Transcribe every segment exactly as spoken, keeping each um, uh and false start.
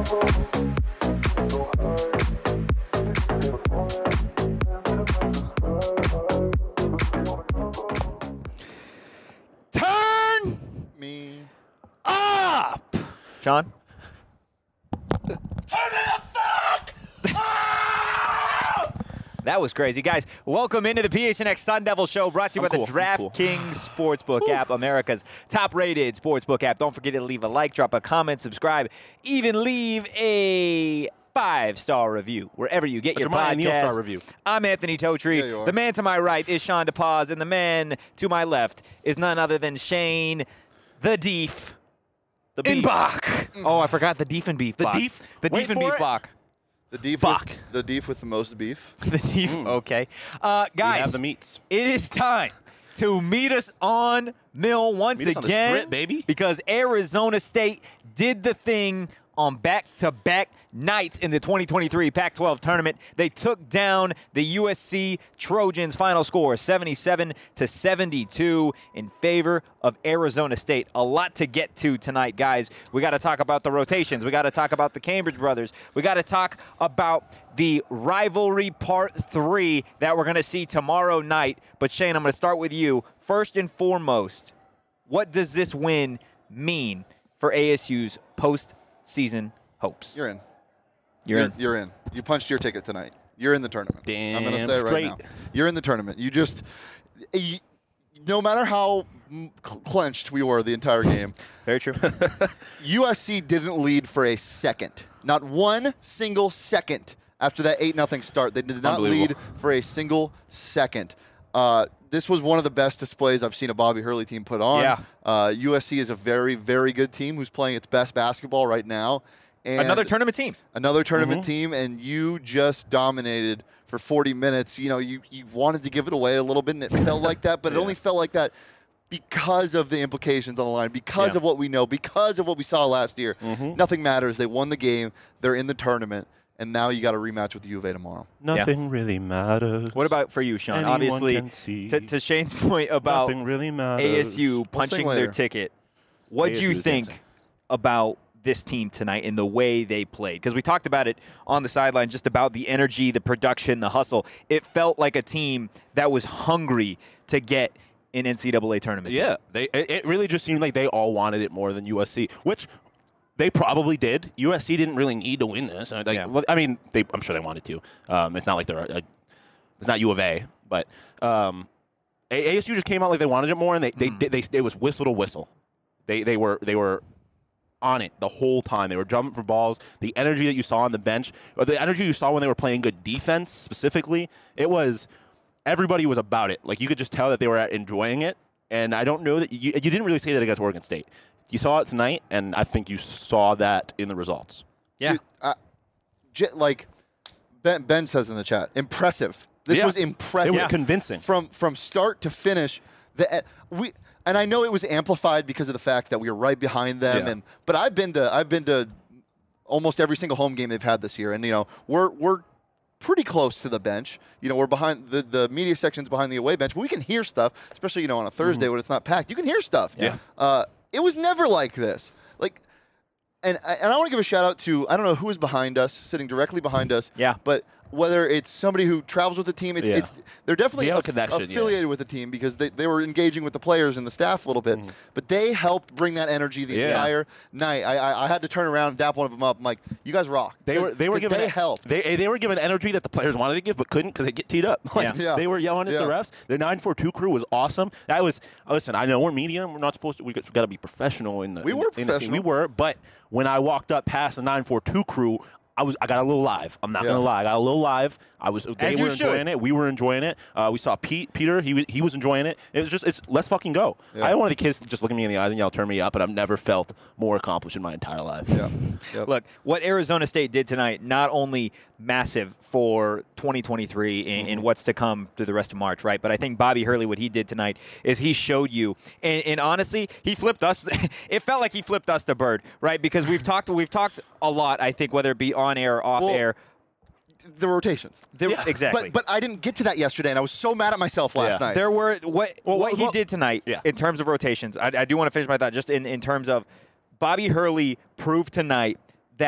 Turn me up. Sean? Turn it up, fuck! That was crazy. Guys, welcome into the P H N X Sun Devil Show, brought to you I'm by cool. the I'm cool. DraftKings Sportsbook app, America's top-rated sportsbook app. Don't forget to leave a like, drop a comment, subscribe, even leave a five-star review wherever you get A your Jeremiah Neal podcast. star review. I'm Anthony Totri. Yeah, you are. The man to my right is Sean DePaz, and the man to my left is none other than Shane the Deef The in beef. Bach. Oh, I forgot the Deef and Beef. The Bach. Deef? The Wait Deef and for Beef it. Bach. The deef, Fuck. with, the deef with the most beef. The Deef. Okay. Uh, We guys. have the meats. It is time to meet us on Mill once Meet us on the again, strip, baby. because Arizona State did the thing on back-to-back nights in the twenty twenty-three Pac twelve tournament. They took down the U S C Trojans. Final score seventy-seven to seventy-two in favor of Arizona State. A lot to get to tonight, guys. We got to talk about the rotations. We got to talk about the Cambridge brothers. We got to talk about the rivalry part three that we're going to see tomorrow night. But Shane, I'm going to start with you. First and foremost, what does this win mean for A S U's postseason hopes? You're in. You're in. You're in. You punched your ticket tonight. You're in the tournament. I'm going to Damn say it right straight. now. You're in the tournament. You just, you, no matter how mm, cl- clenched we were the entire game, Very true. U S C didn't lead for a second. Not one single second after that eight nothing start. They did not lead Unbelievable. for a single second. Uh, this was one of the best displays I've seen a Bobby Hurley team put on. Yeah. Uh, U S C is a very, very good team who's playing its best basketball right now. And Another tournament team. another tournament Mm-hmm. team, and you just dominated for forty minutes. You know, you, you wanted to give it away a little bit, and it felt like that, but it only felt like that because of the implications on the line, because Yeah. of what we know, because of what we saw last year. Mhm. Nothing matters. They won the game. They're in the tournament, and now you got a rematch with the U of A tomorrow. Nothing really matters. What about for you, Sean? Anyone Obviously, can see. to, to Shane's point about Nothing really matters. A S U We'll punching sing their later. ticket, what do you A S U is think dancing. about this team tonight and the way they played? Because we talked about it on the sideline, just about the energy, the production, the hustle. It felt like a team that was hungry to get an N C double A tournament. Yeah, they. It, it really just seemed like they all wanted it more than U S C, which they probably did. U S C didn't really need to win this. Like, Yeah. well, I mean, they, I'm sure they wanted to. Um, it's not like they're. A, a- it's not U of A, but um, A- ASU just came out like they wanted it more, and they they, they, they it was whistle to whistle. They they were they were on it the whole time. They were jumping for balls. The energy that you saw on the bench, or the energy you saw when they were playing good defense specifically, it was everybody was about it. Like you could just tell that they were enjoying it. And I don't know that you, you didn't really say that against Oregon State. You saw it tonight, and I think you saw that in the results. Yeah. Dude, uh, j- like Ben, Ben says in the chat, impressive. This Yeah. was impressive. It was convincing. from from start to finish. The uh, we and I know it was amplified because of the fact that we were right behind them. Yeah. And but I've been to I've been to almost every single home game they've had this year, and you know we're we're pretty close to the bench. You know we're behind the the media section's behind the away bench, but we can hear stuff, especially you know on a Thursday when it's not packed. You can hear stuff. Yeah. Uh, it was never like this. Like. And, and I want to give a shout out to, I don't know who is behind us, sitting directly behind us. Yeah. But whether it's somebody who travels with the team, it's, Yeah. it's they're definitely They have a aff- connection, yeah. affiliated with the team because they, they were engaging with the players and the staff a little bit. But they helped bring that energy the Yeah. entire night. I, I I had to turn around and dap one of them up. I'm like, you guys rock. They were 'Cause- they were 'cause given they helped. They they were given energy that the players wanted to give but couldn't because they get teed up. Like, Yeah. Yeah. They were yelling at Yeah. the refs. The nine four two crew was awesome. That was listen. I know we're media. We're not supposed to. We got, got to be professional in the. We in were the, in the scene. We professional. were, but when I walked up past the nine four two crew. I was. I got a little live. I'm not Yeah. gonna lie. I got a little live. I was. They As were you enjoying should. it. We were enjoying it. Uh, we saw Pete. Peter. He was. He was enjoying it. It was just. It's. Let's fucking go. Yeah. I had one of the kids just look at me in the eyes and yell, "Turn me up!" But I've never felt more accomplished in my entire life. Yeah. Yep. Look, what Arizona State did tonight, not only massive for twenty twenty-three and, and what's to come through the rest of March, right? But I think Bobby Hurley, what he did tonight is he showed you, and, and honestly, he flipped us. It felt like he flipped us the bird, right? Because we've talked, we've talked a lot. I think whether it be on air or off Well, air, the rotations. there, Yeah. exactly. But but I didn't get to that yesterday, and I was so mad at myself last Yeah. night. There were what Well, what he well, did tonight yeah. in terms of rotations. I, I do want to finish my thought just in, in terms of Bobby Hurley proved tonight that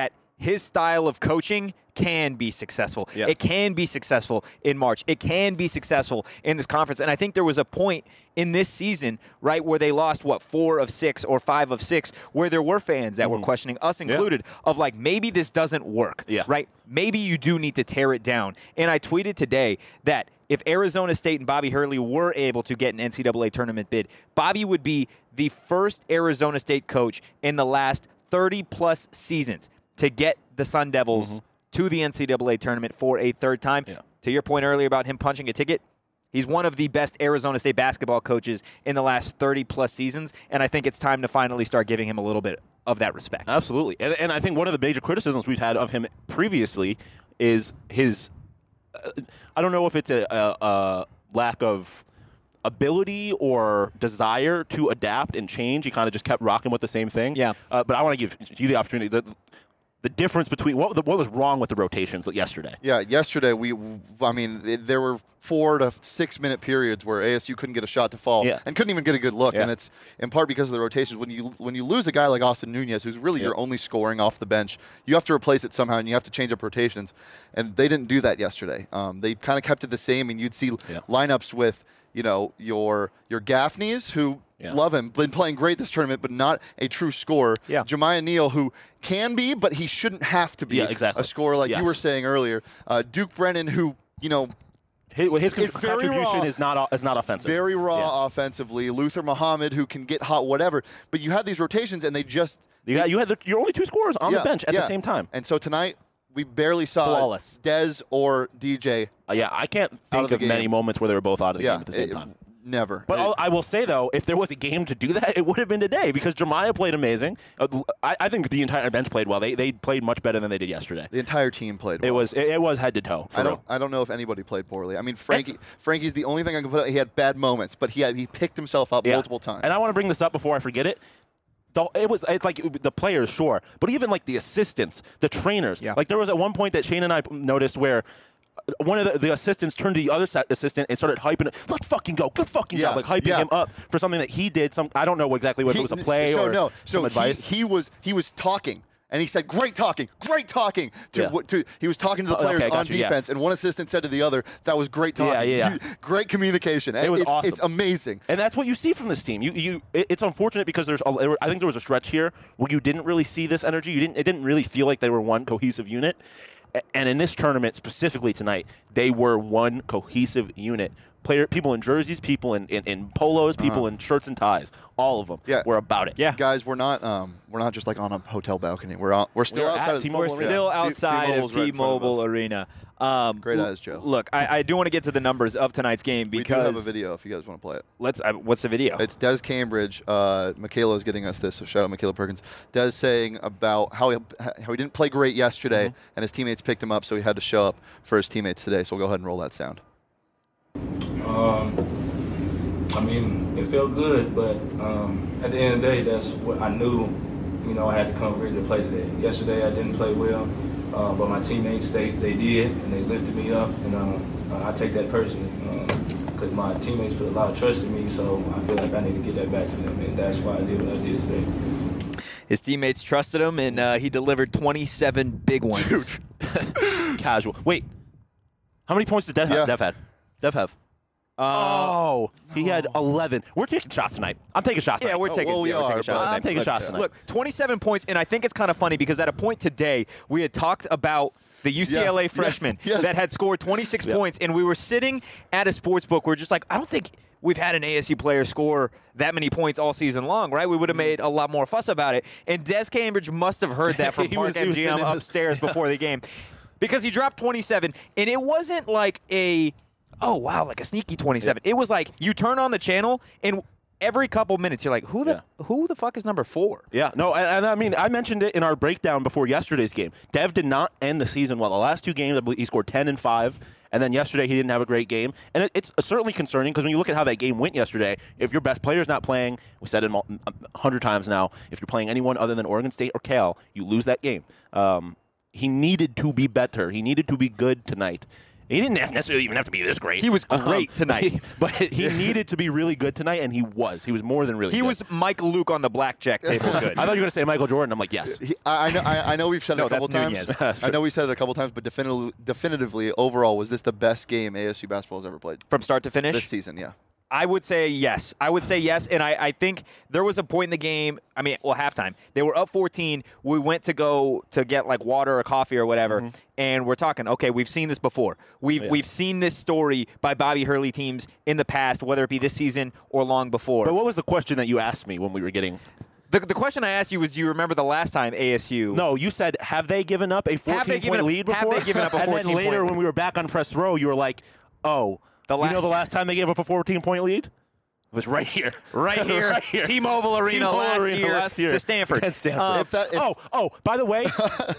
his style of coaching can be successful. Yeah. It can be successful in March. It can be successful in this conference. And I think there was a point in this season, right, where they lost, what, four of six or five of six, where there were fans that mm-hmm. were questioning, us included, yeah. of like, maybe this doesn't work, yeah. right? Maybe you do need to tear it down. And I tweeted today that if Arizona State and Bobby Hurley were able to get an N C double A tournament bid, Bobby would be the first Arizona State coach in the last thirty-plus seasons to get the Sun Devils mm-hmm. to the N C double A tournament for a third time. Yeah. To your point earlier about him punching a ticket, he's one of the best Arizona State basketball coaches in the last thirty-plus seasons, and I think it's time to finally start giving him a little bit of that respect. Absolutely. And, and I think one of the major criticisms we've had of him previously is his uh, – I don't know if it's a, a, a lack of ability or desire to adapt and change. He kind of just kept rocking with the same thing. Yeah. Uh, but I want to give you the opportunity – the difference between what what was wrong with the rotations yesterday. Yeah, yesterday we, I mean, it, there were four to six minute periods where A S U couldn't get a shot to fall yeah. and couldn't even get a good look, yeah. and it's in part because of the rotations. When you when you lose a guy like Austin Nunez, who's really yeah. your only scoring off the bench, you have to replace it somehow, and you have to change up rotations, and they didn't do that yesterday. Um, they kind of kept it the same, and you'd see yeah. lineups with you know your your Gaffneys who. Yeah. Love him. Been playing great this tournament, but not a true scorer. Yeah. Jemiah Neal, who can be, but he shouldn't have to be yeah, exactly. a scorer like yes. you were saying earlier. Uh, Duke Brennan, who, you know, his, his is contribution raw, is not is not offensive. Very raw yeah. offensively. Luther Muhammad, who can get hot, whatever. But you had these rotations, and they just you, got, you had the, your only two scorers on yeah, the bench at yeah. the same time. And so tonight, we barely saw Flawless. Dez or D J. Uh, yeah, I can't think of, of many moments where they were both out of the yeah, game at the same it, time. Never. But it, I will say, though, if there was a game to do that, it would have been today because Jemiah played amazing. Uh, I, I think the entire bench played well. They they played much better than they did yesterday. The entire team played well. It was it, it was head to toe. I don't real. I don't know if anybody played poorly. I mean, Frankie Frankie's the only thing I can put out. He had bad moments, but he had, he picked himself up yeah. multiple times. And I want to bring this up before I forget it. The, it was it's like the players, sure, but even like the assistants, the trainers. Yeah. Like there was at one point that Shane and I noticed where one of the, the assistants turned to the other assistant and started hyping it. Let's fucking go. Good fucking yeah, job. Like hyping yeah. him up for something that he did. Some I don't know exactly what he, it was a play so or no. some so advice. He, he was he was talking. And he said, "Great talking, great talking." To, Yeah. to he was talking to the Oh, players okay, on gotcha, yeah. defense, and one assistant said to the other, "That was great talking." Yeah, yeah, yeah. You- great communication. It was it's, awesome. It's amazing. And that's what you see from this team. You, you, it, it's unfortunate because there's, a, there were, I think there was a stretch here where you didn't really see this energy. You didn't, it didn't really feel like they were one cohesive unit. A- And in this tournament, specifically tonight, they were one cohesive unit. Player, people in jerseys, people in, in, in polos, people Uh-huh. in shirts and ties. All of them Yeah. were about it. Yeah. Guys, we're not um, we're not just like on a hotel balcony. We're out, we're still We're at outside of T-Mobile We're Arena. still Yeah. T- outside T-Mobile's of right in front of T-Mobile us. Arena. Um, Great l- eyes, Joe. Look, I, I do want to get to the numbers of tonight's game We do because have a video if you guys want to play it. let's. Uh, what's the video? It's Des Cambridge. Uh, Michaela is getting us this, so shout out Michaela Perkins. Des saying about how he, how he didn't play great yesterday, Mm-hmm. and his teammates picked him up, so he had to show up for his teammates today. So we'll go ahead and roll that sound. Um, I mean, it felt good, but um, at the end of the day, that's what I knew. You know, I had to come ready to play today. Yesterday, I didn't play well, uh, but my teammates, they, they did, and they lifted me up, and uh, uh, I take that personally because um, my teammates put a lot of trust in me, so I feel like I need to get that back to them, and that's why I did what I did today. His teammates trusted him, and uh, he delivered twenty-seven big ones. Casual. Wait. How many points did Dev Yeah. have? Dev had? Dev have? Uh, Oh, he had eleven. We're taking shots tonight. I'm taking shots tonight. yeah, we're Oh, taking. well, we yeah, we're are, taking shots but- tonight. I'm taking but, shots uh, tonight. Look, twenty-seven points, and I think it's kind of funny because at a point today we had talked about the U C L A Yeah, freshman yes, yes. that had scored twenty-six Yeah. points, and we were sitting at a sports book. We're just like, I don't think we've had an A S U player score that many points all season long, right? We would have made a lot more fuss about it. And Des Cambridge must have heard that from He Park was- he was M G M sitting in the- upstairs before the game because he dropped twenty-seven, and it wasn't like a oh wow, like a sneaky twenty-seven. It was like you turn on the channel and every couple minutes you're like, who the who the fuck is number four? Yeah, no, and, and I mean, I mentioned it in our breakdown before yesterday's game. Dev did not end the season well. The last two games, I believe he scored ten and five, and then yesterday he didn't have a great game. And it, it's certainly concerning because when you look at how that game went yesterday, if your best player's not playing, we said it a hundred times now, if you're playing anyone other than Oregon State or Cal, you lose that game. Um, he needed to be better. He needed to be good tonight. He didn't necessarily even have to be this great. He was great um, tonight. He, but he needed to be really good tonight, and he was. He was more than really He good. was Mike Luke on the blackjack table good. I thought you were going to say Michael Jordan. I'm like, yes. He, I, I know. I, I know we've said it No, a couple that's times. Nunez. I know we said it a couple times, but definitively, definitively, overall, was this the best game A S U basketball has ever played From start to finish? this season? Yeah. I would say yes. I would say yes, and I, I think there was a point in the game, I mean, well, halftime. They were up fourteen. We went to go to get, like, water or coffee or whatever, mm-hmm. and we're talking, okay, we've seen this before. We've, yeah. we've seen this story by Bobby Hurley teams in the past, whether it be this season or long before. But what was the question that you asked me when we were getting – The, the question I asked you was, do you remember the last time A S U? No, you said, have they given up a fourteen-point lead before? Have they given up a fourteen-point And then later when we were back on press row, you were like, oh, the last you know the last time they gave up a fourteen-point lead? It was right here. Right here. right here. T-Mobile Arena, T-Mobile last, Arena year last year to Stanford. Against Stanford. Uh, if that, if oh, oh, by the way,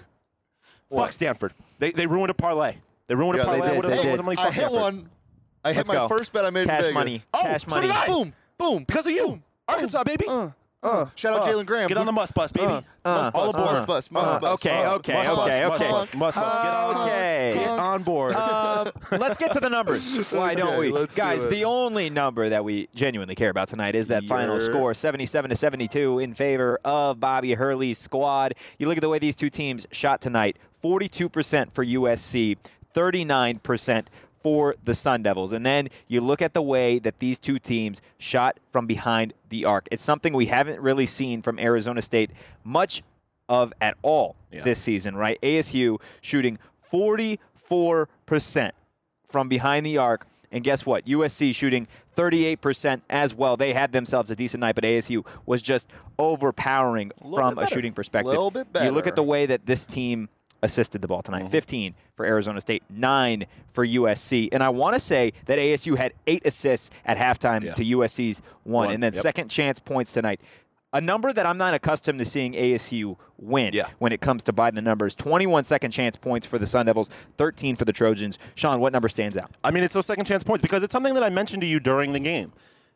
fuck Stanford. They, they ruined a parlay. They ruined Yeah, a they parlay. did, What they is- did. what is money? I Fuck hit Stanford. one. I hit Let's my go. first bet I made Cash in Vegas. money. Oh, Cash so money. did I. Boom. Boom. Because of you. Boom. Arkansas, baby. Uh, uh, shout out Uh, Jalen Graham. Get on the must bus, baby. Uh, Uh, must bus, uh, must bus, must uh, bus. okay, must okay, bus, okay, must okay. bus, Must bus. Get on. Okay. Get on board. Uh, let's get to the numbers. Why don't Okay, we? let's do Guys, it. the only number that we genuinely care about tonight is that final Yeah. score, seventy-seven to seventy-two in favor of Bobby Hurley's squad. You look at the way these two teams shot tonight, forty-two percent for U S C, thirty-nine percent for the Sun Devils. And then you look at the way that these two teams shot from behind the arc. It's something we haven't really seen from Arizona State much of at all Yeah. this season, right? A S U shooting forty-four percent from behind the arc. And guess what? U S C shooting thirty-eight percent as well. They had themselves a decent night, but A S U was just overpowering from a shooting perspective. Little bit You look better. at the way that this team assisted the ball tonight. Mm-hmm. fifteen for Arizona State, nine for U S C. And I want to say that A S U had eight assists at halftime Yeah. to U S C's one. One, And then yep. second chance points tonight. A number that I'm not accustomed to seeing A S U win Yeah. when it comes to by the numbers. twenty-one second chance points for the Sun Devils, thirteen for the Trojans. Sean, what number stands out? I mean, it's those second chance points because it's something that I mentioned to you during the game.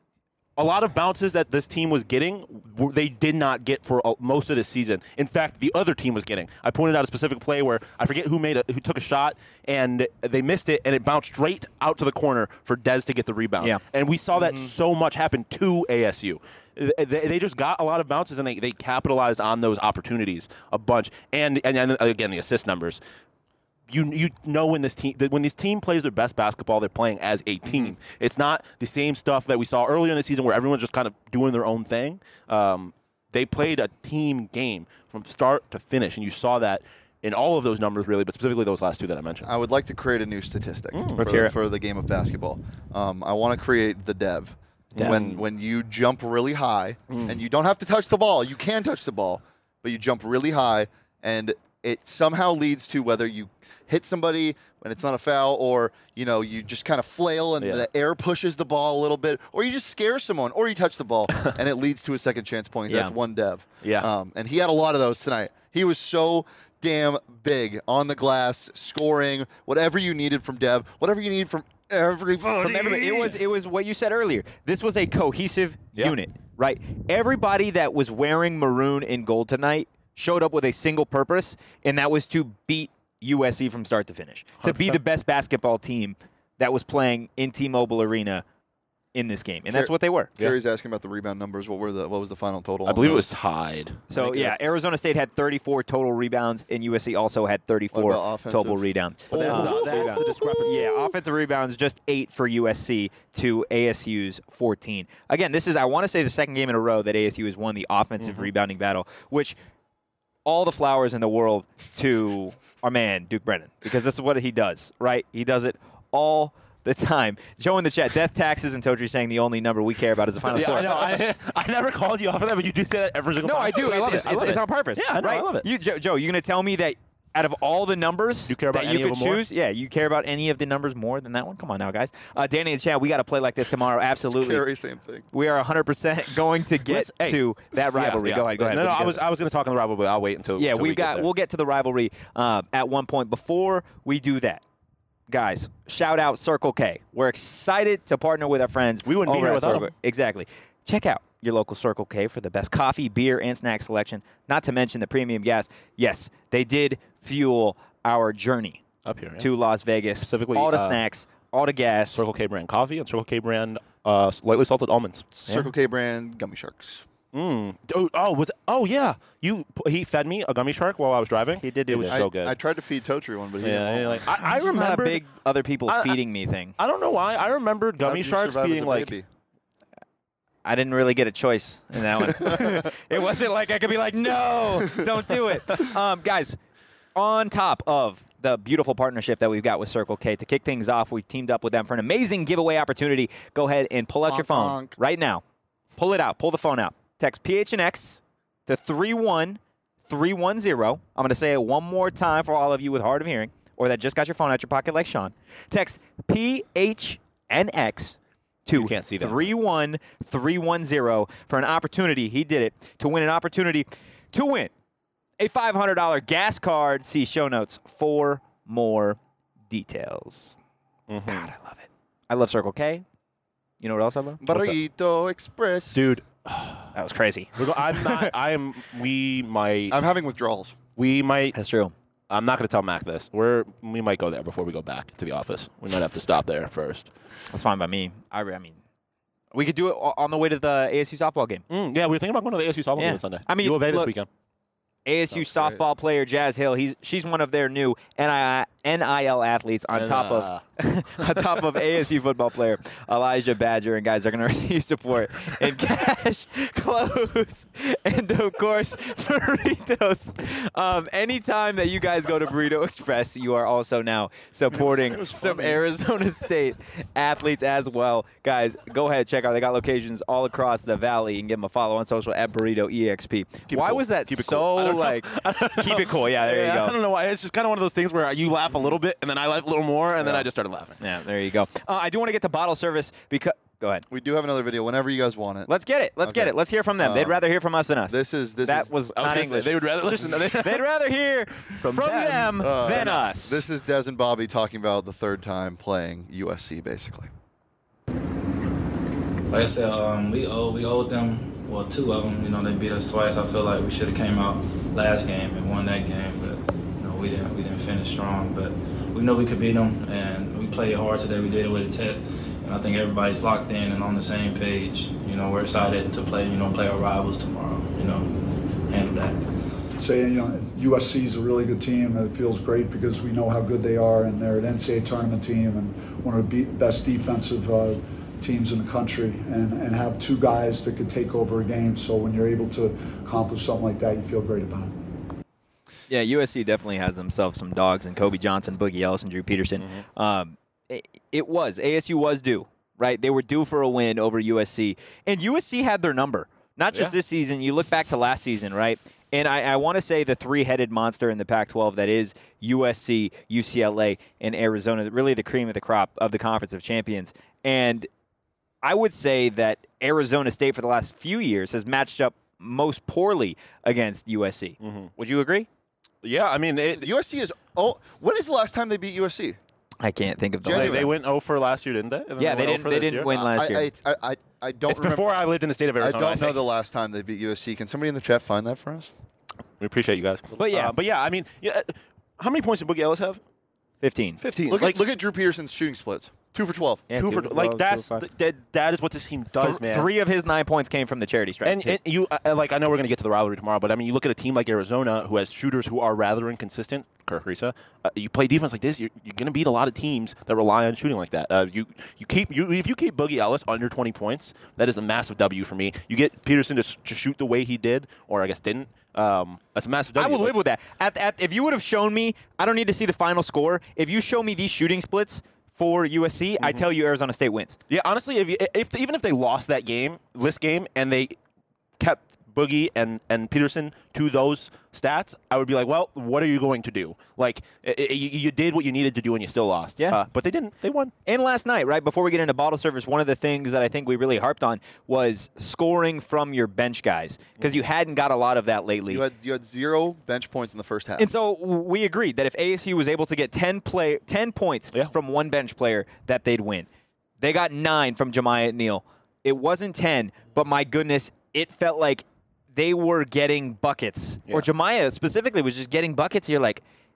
A lot of bounces that this team was getting, were- they did not get for uh, most of the season. In fact, the other team was getting. I pointed out a specific play where I forget who made a, who took a shot and they missed it, and it bounced straight out to the corner for Dez to get the rebound. Yeah. And we saw that so much happen to A S U. They, they just got a lot of bounces and they, they capitalized on those opportunities a bunch. And and, and again, the assist numbers. You you know when this team that when this team plays their best basketball, they're playing as a team. It's not the same stuff that we saw earlier in the season where everyone's just kind of doing their own thing. Um, they played a team game from start to finish, and you saw that in all of those numbers, really, but specifically those last two that I mentioned. I would like to create a new statistic Let's for, hear it. for the game of basketball. Um, I want to create the dev. Dev. When when you jump really high, and you don't have to touch the ball. You can touch the ball, but you jump really high, and it somehow leads to whether you hit somebody when it's not a foul, or you know you just kind of flail and Yeah. the air pushes the ball a little bit, or you just scare someone, or you touch the ball and it leads to a second chance point. That's Yeah. one dev. Yeah. Um, and he had a lot of those tonight. He was so damn big on the glass, scoring whatever you needed from Dev, whatever you need from everybody. From everybody. It was it was what you said earlier. This was a cohesive Yeah. unit, right? Everybody that was wearing maroon and gold tonight showed up with a single purpose, and that was to beat U S C from start to finish, to be the best basketball team that was playing in T-Mobile Arena in this game, and that's Car- what they were. Gary's asking about the rebound numbers. What were the what was the final total? I on believe it those? was tied. So, I think yeah, it Arizona State had thirty-four total rebounds, and U S C also had thirty-four What about offensive? total rebounds. was- That's, Uh, the, that's the rebounds. discrepancy. Yeah, offensive rebounds, just eight for U S C to A S U's fourteen. Again, this is, I want to say, the second game in a row that A S U has won the offensive Mm-hmm. rebounding battle, which all the flowers in the world to our man, Duke Brennan, because this is what he does, right? He does it all the time. Joe in the chat, death, taxes, and Totri saying the only number we care about is the final Yeah, score. I know. I, I never called you off of that, but you do say that every single No, time. I do. I love it's, it. I it's, love it's it. on purpose. Yeah, I know. right? I love it. You, Joe, Joe, you're going to tell me that out of all the numbers You care about that you any of could them more? choose, yeah, you care about any of the numbers more than that one? Come on now, guys. Uh, Danny and Chad, we got to play like this tomorrow. Absolutely. Gary, same thing. We are one hundred percent going to get Listen, hey. to that rivalry. Yeah, Go yeah. ahead. Go ahead. No, no, What you I was guys- I was going to talk on the rivalry. I'll wait until. Yeah, until we've we get got. there. We'll get to the rivalry uh, at one point. Before we do that, guys, shout out Circle K. We're excited to partner with our friends. We wouldn't be over here at without Circle- them. Exactly. Check out your local Circle K for the best coffee, beer, and snack selection. Not to mention the premium gas. Yes, they did fuel our journey Up here, yeah. to Las Vegas. Specifically, all the uh, snacks, all the gas. Circle K brand coffee and Circle K brand uh, lightly salted almonds. Circle K brand gummy sharks. Mm. Oh, oh, was it, oh yeah. You he fed me a gummy shark while I was driving. He did do It was that. so I, good. I tried to feed Totri one, but he yeah, didn't yeah, want like, I, I It's just not a remember big other people I- I- feeding me thing. I don't know why. I remembered one. How gummy did you sharks survive as being a like baby? I didn't really get a choice in that one. It wasn't like I could be like, no, don't do it. Um, guys, on top of the beautiful partnership that we've got with Circle K, to kick things off, we've teamed up with them for an amazing giveaway opportunity. Go ahead and pull out your Honk, phone honk. right now. Pull it out. Pull the phone out. Text P H N X to three one three one zero. I'm going to say it one more time for all of you with hard of hearing or that just got your phone out your pocket like Sean. Text P H N X to You can't see that. three one three one zero for an opportunity. He did it to win an opportunity to win a five hundred dollars gas card. See show notes for more details. Mhm. God, I love it. I love Circle K. You know what else I love? Burrito Express. dude. That was crazy. We're go- I'm not. I am. We might. I'm having withdrawals. We might. That's true. I'm not going to tell Mac this. We're. We might go there before we go back to the office. We might have to stop there first. That's fine by me. I, I mean, we could do it o- on the way to the A S U softball game. Mm, yeah, we were thinking about going to the A S U softball Yeah. game on Sunday. I mean, U of A this look, weekend. A S U Sounds great. softball player Jazz Hill. He's she's one of their new N I L athletes on top of on top of A S U football player Elijah Badger, and guys are going to receive support in cash, clothes, and of course burritos. Um, anytime that you guys go to Burrito Express, you are also now supporting It was some funny. Arizona State athletes as well. Guys, go ahead, check out. They got locations all across the valley, and give them a follow on social at Burrito E X P. Keep it Why cool. was that Keep it so cool. I don't know. like? Keep it cool. Yeah, there Yeah, you I go. don't know why. It's just kind of one of those things where you laugh a little bit, and then I laugh a little more, and then I just started laughing. Yeah, there you go. Uh, I do want to get to bottle service because. Go ahead. We do have another video whenever you guys want it. Let's get it. Let's get Okay. it. Let's hear from them. They'd Um, rather hear from us than us. This is this that is was I was not gonna say, English. they would rather listen. They'd rather hear from, them, them, uh, than us. This is Des and Bobby talking about the third time playing U S C, basically. Like I said, um, we owe we owed them, well, two of them. You know, they beat us twice. I feel like we should have came out last game and won that game, but you know, we didn't. We didn't finish strong, but we know we could beat them, and we played hard today. We did it with a tip, and I think everybody's locked in and on the same page. You know, we're excited to play. You know, play our rivals tomorrow. You know, handle that. Say, you know, U S C is a really good team. It feels great because we know how good they are, and they're an N C double A tournament team and one of the be- best defensive uh, teams in the country, and, and have two guys that could take over a game. So when you're able to accomplish something like that, you feel great about it. Yeah, U S C definitely has themselves some dogs, and Kobe Johnson, Boogie Ellis, and Drew Peterson. Mm-hmm. Um, it, it was. A S U was due, right? They were due for a win over U S C. And U S C had their number. Not just Yeah. this season. You look back to last season, right? And I, I want to say the three-headed monster in the Pac twelve that is U S C, U C L A, and Arizona, really the cream of the crop of the Conference of Champions. And I would say that Arizona State for the last few years has matched up most poorly against U S C. Mm-hmm. Would you agree? Yeah, I mean, it, U S C is. Oh, when is the last time they beat U S C? I can't think of the they, January. last they went oh for last year, didn't they? And then Yeah, they went oh didn't. for They this didn't year? win last I, year. I, I, I don't. It's remember, before I lived in the state of I Arizona. don't know think. the last time they beat U S C. Can somebody in the chat find that for us? We appreciate you guys. But yeah. Uh, but yeah, I mean, yeah. How many points did Boogie Ellis have? Fifteen. Fifteen. Look like, at look at Drew Peterson's shooting splits. Two for twelve. Yeah, two two for for like twelve, that's two for five. that, that is what this team does, Th- man. Three of his nine points came from the charity stripe. And, too. and you uh, like I know we're going to get to the rivalry tomorrow, but I mean you look at a team like Arizona who has shooters who are rather inconsistent. Kirk Risa, uh, you play defense like this, you're, you're going to beat a lot of teams that rely on shooting like that. Uh, you you keep you if you keep Boogie Ellis under twenty points, that is a massive W for me. You get Peterson to, to shoot the way he did, or I guess didn't. Um, that's a massive W. I will Like, live with that. At, at, if you would have shown me, I don't need to see the final score. If you show me these shooting splits for U S C, I tell you Arizona State wins. Yeah, honestly, if, you, if even if they lost that game, this game, and they kept Boogie and, and Peterson to those stats, I would be like, well, what are you going to do? Like, i i you, you did what you needed to do, and you still lost. Yeah. Uh, but they didn't. They won. And last night, right before we get into bottle service, one of the things that I think we really harped on was scoring from your bench guys, because you hadn't got a lot of that lately. You had you had zero bench points in the first half. And so we agreed that if A S U was able to get ten play ten points Yeah. from one bench player, that they'd win. They got nine from Jemiah Neal. It wasn't ten, but my goodness, it felt like they were getting buckets. Yeah. Or Jemiah specifically was just getting buckets. You're like,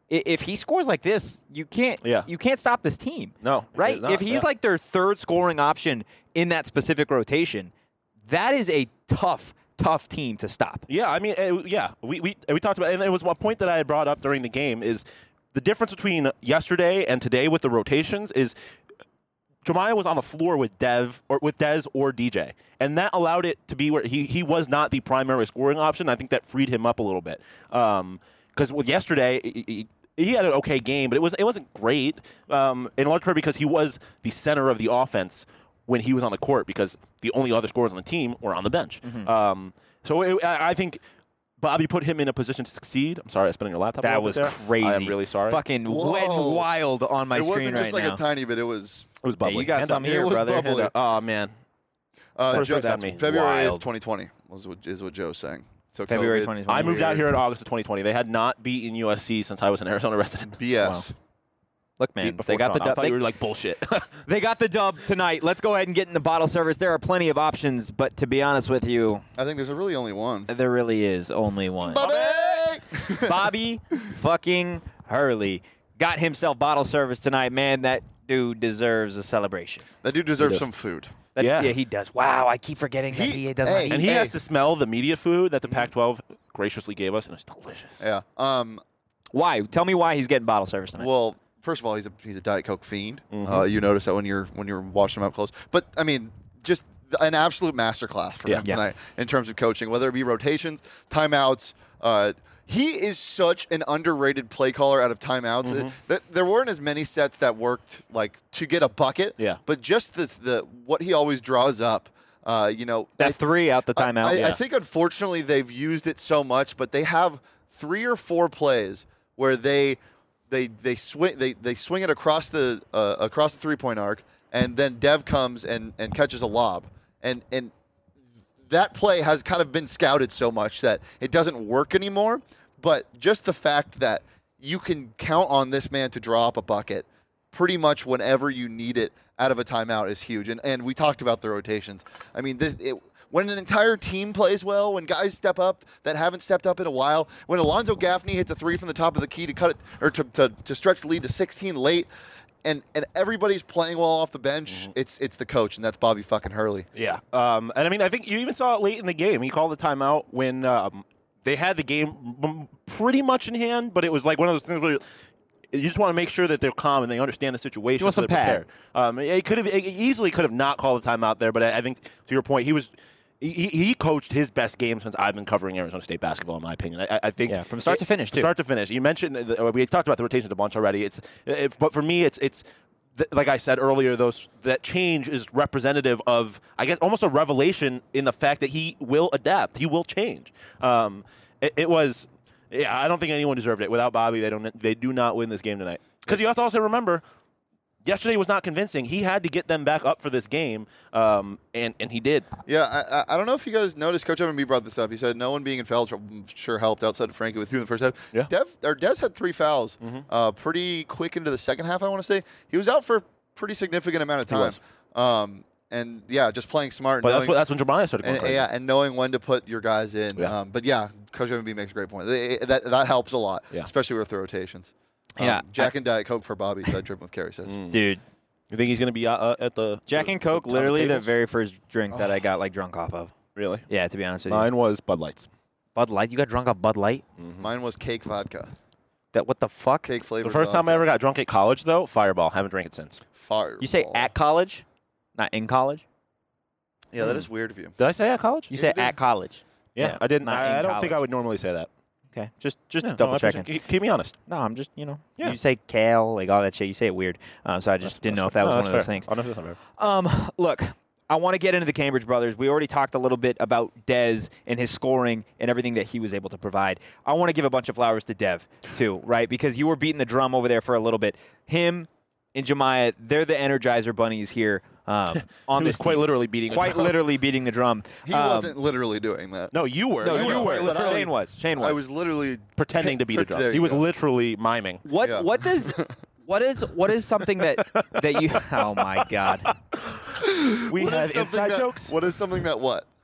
i- if he scores like this, you can't Yeah. you can't stop this team. No, Right? it's not, if he's yeah. like their third scoring option in that specific rotation, that is a tough, tough team to stop. Yeah, I mean, uh, yeah, we, we we talked about, and it was a point that I had brought up during the game is the difference between yesterday and today with the rotations is Jemiah was on the floor with Dev or with Dez or D J, and that allowed it to be where he he was not the primary scoring option. I think that freed him up a little bit because with yesterday. He, he, He had an okay game, but it was it wasn't great. Um, in large part because he was the center of the offense when he was on the court, because the only other scorers on the team were on the bench. Mm-hmm. Um, so it, I I think Bobby put him in a position to succeed. I'm sorry, I spent on your laptop. a That little was bit there. crazy. I am really sorry. Fucking Whoa. wet and wild on my it screen wasn't just right like now. a tiny bit. It was It was bubbly. Hey, you got Hand some up. here, It was brother. bubbly. Hand up. Oh man, uh, First Joe, look at me. February eighth, Wild. twenty twenty was what, is what Joe's saying. So February COVID, twenty twenty. I moved out weird. here in August of twenty twenty. They had not beaten U S C since I was an Arizona resident. B S. Wow. Look, man, Beat before they got the Sean. I dub. thought They, you were like bullshit. they got the dub tonight. Let's go ahead and get in the bottle service. There are plenty of options, but to be honest with you, I think there's a really only one. there really is only one. Bobby! Bobby fucking Hurley got himself bottle service tonight. Man, that dude deserves a celebration. That dude deserves does. some food. That, Yeah. he does. Wow, I keep forgetting that He- he does hey, not and eat. he Hey. has to smell the media food that the Pac twelve graciously gave us, and it's delicious. Yeah. Um. Why? Tell me why he's getting bottle service tonight. Well, first of all, he's a he's a Diet Coke fiend. Mhm. Uh, you notice that when you're when you're watching him up close. But I mean, just an absolute masterclass from Yeah. him Yeah. tonight in terms of coaching, whether it be rotations, timeouts. Uh, he is such an underrated play caller out of timeouts. Mm-hmm. Uh, That there weren't as many sets that worked like to get a bucket. Yeah. But just the the what he always draws up. Uh, you know, that I- three out the I- timeout. I, yeah. I think unfortunately they've used it so much, but they have three or four plays where they they they swing they, they swing it across the uh, across the three point arc, and then Dev comes and, and catches a lob, and and that play has kind of been scouted so much that it doesn't work anymore. But just the fact that you can count on this man to draw up a bucket pretty much whenever you need it out of a timeout is huge. And and we talked about the rotations. I mean, this it, when an entire team plays well, when guys step up that haven't stepped up in a while, when Alonzo Gaffney hits a three from the top of the key to cut it or to, to, to stretch the lead to sixteen late, and and everybody's playing well off the bench, it's it's the coach, and that's Bobby fucking Hurley. Yeah. Um, and I mean, I think you even saw it late in the game. He called the timeout when um, they had the game m- pretty much in hand, but it was like one of those things where you just want to make sure that they're calm and they understand the situation. You want so some they're pad. prepared. Um, it could have it easily could have not called the timeout there, but I, I think to your point, he was. He, he coached his best game since I've been covering Arizona State basketball, in my opinion. I, I think Yeah, from start to finish, too. Start to finish. You mentioned the, we talked about the rotations a bunch already. It's, it, but for me, it's it's th- like I said earlier. Those that change is representative of, I guess, almost a revelation in the fact that he will adapt. He will change. Um, it, it was, yeah. I don't think anyone deserved it. Without Bobby, they don't. They do not win this game tonight. Because you have to also remember. Yesterday was not convincing. He had to get them back up for this game, um, and and he did. Yeah, I, I I don't know if you guys noticed. Coach Evan B brought this up. He said no one being in foul trouble sure helped outside of Frankie with two in the first half. Yeah. Dev or Des had three fouls, Mm-hmm. uh, pretty quick into the second half. I want to say he was out for a pretty significant amount of He time. was. Um, and yeah, just playing smart. But knowing, that's what, that's when Jemiah started going and, crazy. yeah, and knowing when to put your guys in. Yeah. Um, but yeah, Coach Evan B makes a great point. They- That that helps a lot, Yeah. especially with the rotations. Um, Yeah, Jack and Diet Coke for Bobby. That dripping with Carrie says. Mm. Dude, You think he's going to be uh, uh, at the Jack the- and the Coke, top of literally the tables? very first drink that I got like drunk off of. Really? Yeah, to be honest with you. Mine was Bud Lights. Bud Light? You got drunk off Bud Light? Mine was cake vodka, That what the fuck? cake flavor. The first time I ever got drunk at college, though, Fireball. Haven't drank it since. Fire. You say at college, not in college. Yeah, that is weird of you. Did I say at college? You say you did. at college. yeah, yeah, I didn't. not I, in I don't college. think I would normally say that. Okay, just just Yeah, no, double I checking. appreciate- Keep, keep me honest. No, I'm just you know. Yeah. You say kale, like all that shit. You say it weird. Um, so I just didn't know if that was one of those things. Oh, no, that's not fair. Um, look, I want to get into the Cambridge brothers. We already talked a little bit about Dez and his scoring and everything that he was able to provide. I want to give a bunch of flowers to Dev, too, right? Because you were beating the drum over there for a little bit. Him and Jemiah, they're the Energizer bunnies here um, on He was this quite team. literally beating the Quite drum. literally beating the drum. He Um, wasn't literally doing that. No, you were. No, you you know, were. but I- Shane was. Shane was. I was literally pretending to beat a There drum. He you was go. literally miming. What Yeah. what does what is what is something that that you oh my god. We What is had something inside that- jokes. What is something that what?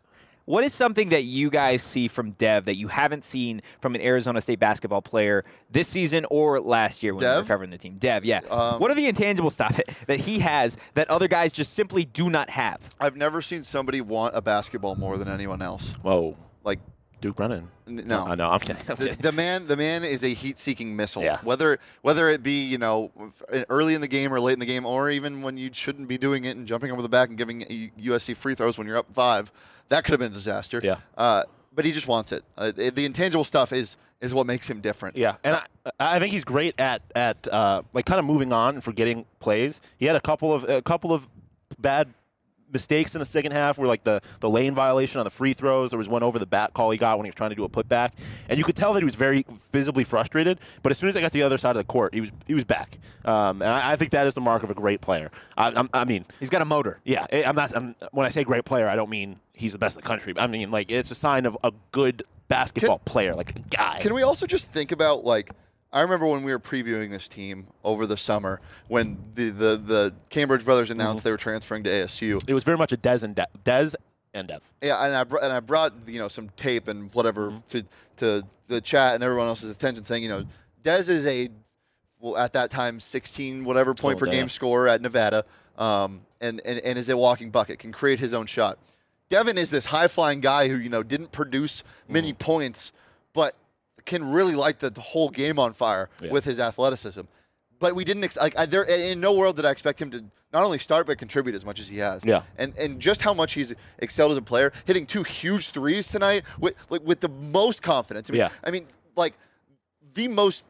What is something that you guys see from Dev that you haven't seen from an Arizona State basketball player this season or last year when Dev? we were covering the team? Dev, yeah. Um, what are the intangible stuff that he has that other guys just simply do not have? I've never seen somebody want a basketball more than anyone else. Whoa. Like, Duke Brennan. N- no. I know. I'm kidding. I'm the, kidding. the man, the man is a heat-seeking missile. Yeah. Whether whether it be you know early in the game or late in the game, or even when you shouldn't be doing it and jumping over the back and giving U S C free throws when you're up five, that could have been a disaster. Yeah. Uh, but he just wants it. Uh, the intangible stuff is is what makes him different. Yeah, and I, I think he's great at at uh, like kind of moving on and forgetting plays. He had a couple of a couple of bad mistakes in the second half where like the, the lane violation on the free throws. There was one over the back call he got when he was trying to do a putback. And you could tell that he was very visibly frustrated. But as soon as I got to the other side of the court, he was he was back. Um, and I, I think that is the mark of a great player. I, I'm, I mean, He's got a motor. yeah, I'm not. I'm, when I say great player, I don't mean he's the best in the country. I mean like it's a sign of a good basketball Can- player, like a guy. Can we also just think about like I remember when we were previewing this team over the summer when the the, the Cambridge brothers announced they were transferring to A S U. It was very much a Dez and De- Dez and Dev. Yeah, and I br- and I brought you know some tape and whatever to to the chat and everyone else's attention, saying you know Dez is a well at that time sixteen whatever point Oh, per damn. game scorer at Nevada, um, and, and and is a walking bucket, can create his own shot. Devin is this high flying guy who you know didn't produce many points, but can really light the, the whole game on fire Yeah. with his athleticism. But we didn't ex- like I, there in no world did I expect him to not only start but contribute as much as he has. Yeah. And and just how much he's excelled as a player, hitting two huge threes tonight with like with the most confidence. I mean, Yeah. I mean like the most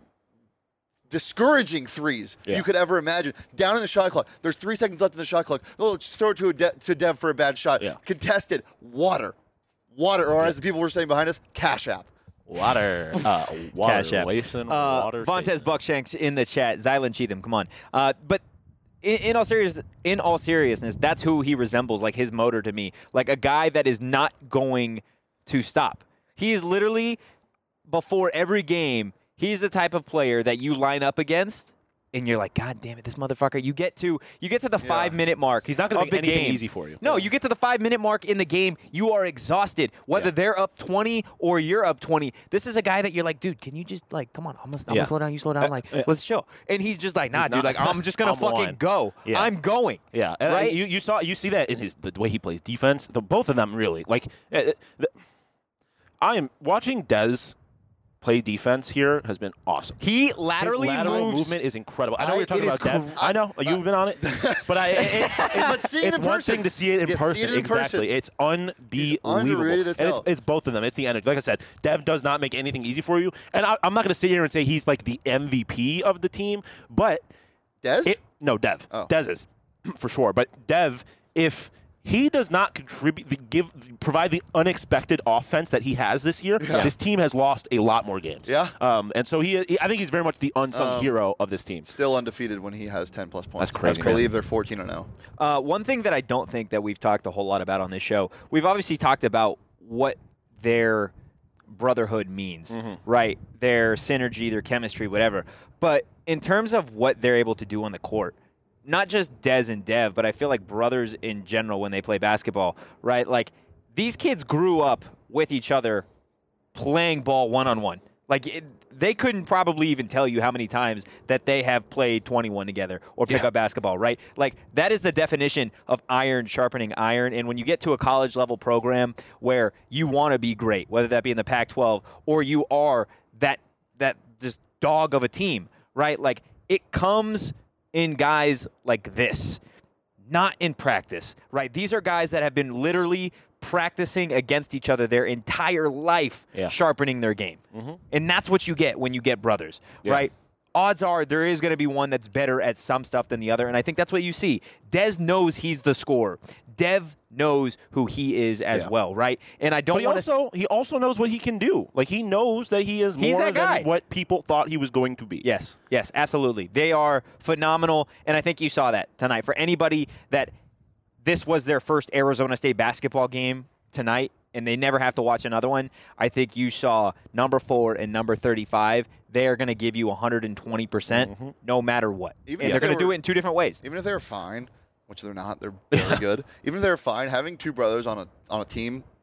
discouraging threes Yeah. you could ever imagine. Down in the shot clock, there's three seconds left in the shot clock. Oh, let's throw it to a De- to Dev for a bad shot. Yeah. Contested, water, water, or as the people were saying behind us, Cash App. Water. Uh, water. Cash App. Racing, Uh, water. Vontez chasing. Buckshanks in the chat. Zylan Cheatham, come on. Uh, but in, in all serious, in all seriousness, that's who he resembles. Like his motor to me, like a guy that is not going to stop. He is literally before every game. He's the type of player that you line up against, and you're like, God damn it, this motherfucker. You get to you get to the Yeah. five minute mark. He's not gonna of make the anything game. easy for you. No, you get to the five minute mark in the game, you are exhausted. Whether Yeah. they're up twenty or you're up twenty, this is a guy that you're like, dude, can you just like, come on, I'm gonna, I'm Yeah. gonna slow down, you slow down, Uh, like, uh, let's chill. And he's just like, nah, He's dude, not- like, I'm just gonna I'm fucking on. go. Yeah. I'm going. Yeah, and Right? I, you you saw you see that in his the way he plays defense. The, both of them really like. Uh, the, I am watching Dez play defense here has been awesome. He laterally His lateral moves. movement is incredible. I know I- we were talking it is about Dev. cr- I know you've been on it, but I it, it's, it's, But seeing it it's in one person- thing to see it in Yeah, see person. it in exactly, person. it's unbelievable. underrated as and hell. it's, it's both of them. It's the energy. Like I said, Dev does not make anything easy for you, and I, I'm not going to sit here and say he's like the M V P of the team, but Dez? it, no, Dev. Oh. Dez is for sure. But Dev, if he does not contribute, the, give, provide the unexpected offense that he has this year, Yeah. this team has lost a lot more games. Yeah. Um, and so he, he- I think he's very much the unsung Um, hero of this team. Still undefeated when he has ten plus points. That's crazy, I man. believe they're fourteen and oh. Uh, one thing that I don't think that we've talked a whole lot about on this show, we've obviously talked about what their brotherhood means, right? Their synergy, their chemistry, whatever. But in terms of what they're able to do on the court, not just Dez and Dev, but I feel like brothers in general when they play basketball, right? Like these kids grew up with each other playing ball one-on-one. Like it, they couldn't probably even tell you how many times that they have played twenty-one together or pick Yeah. up basketball, right? Like that is the definition of iron sharpening iron. And when you get to a college level program where you want to be great, whether that be in the Pac twelve or you are that that just dog of a team, right? Like it comes in guys like this, not in practice, right? These are guys that have been literally practicing against each other their entire life, Yeah. sharpening their game. And that's what you get when you get brothers, Yeah. right? Odds are there is going to be one that's better at some stuff than the other, and I think that's what you see. Dez knows he's the scorer. Dev knows who he is as Yeah. well, right? And I don't But he want to. also he also knows what he can do. Like he knows that he is He's more that guy. than what people thought he was going to be. Yes, yes, absolutely. They are phenomenal, and I think you saw that tonight. For anybody that this was their first Arizona State basketball game tonight, and they never have to watch another one, I think you saw number four and number thirty-five. They are going to give you one hundred twenty percent no matter what. Even and if they're they going to do were- it in two different ways. Even if they're fine, which they're not, they're very good. Even if they're fine, having two brothers on a on a team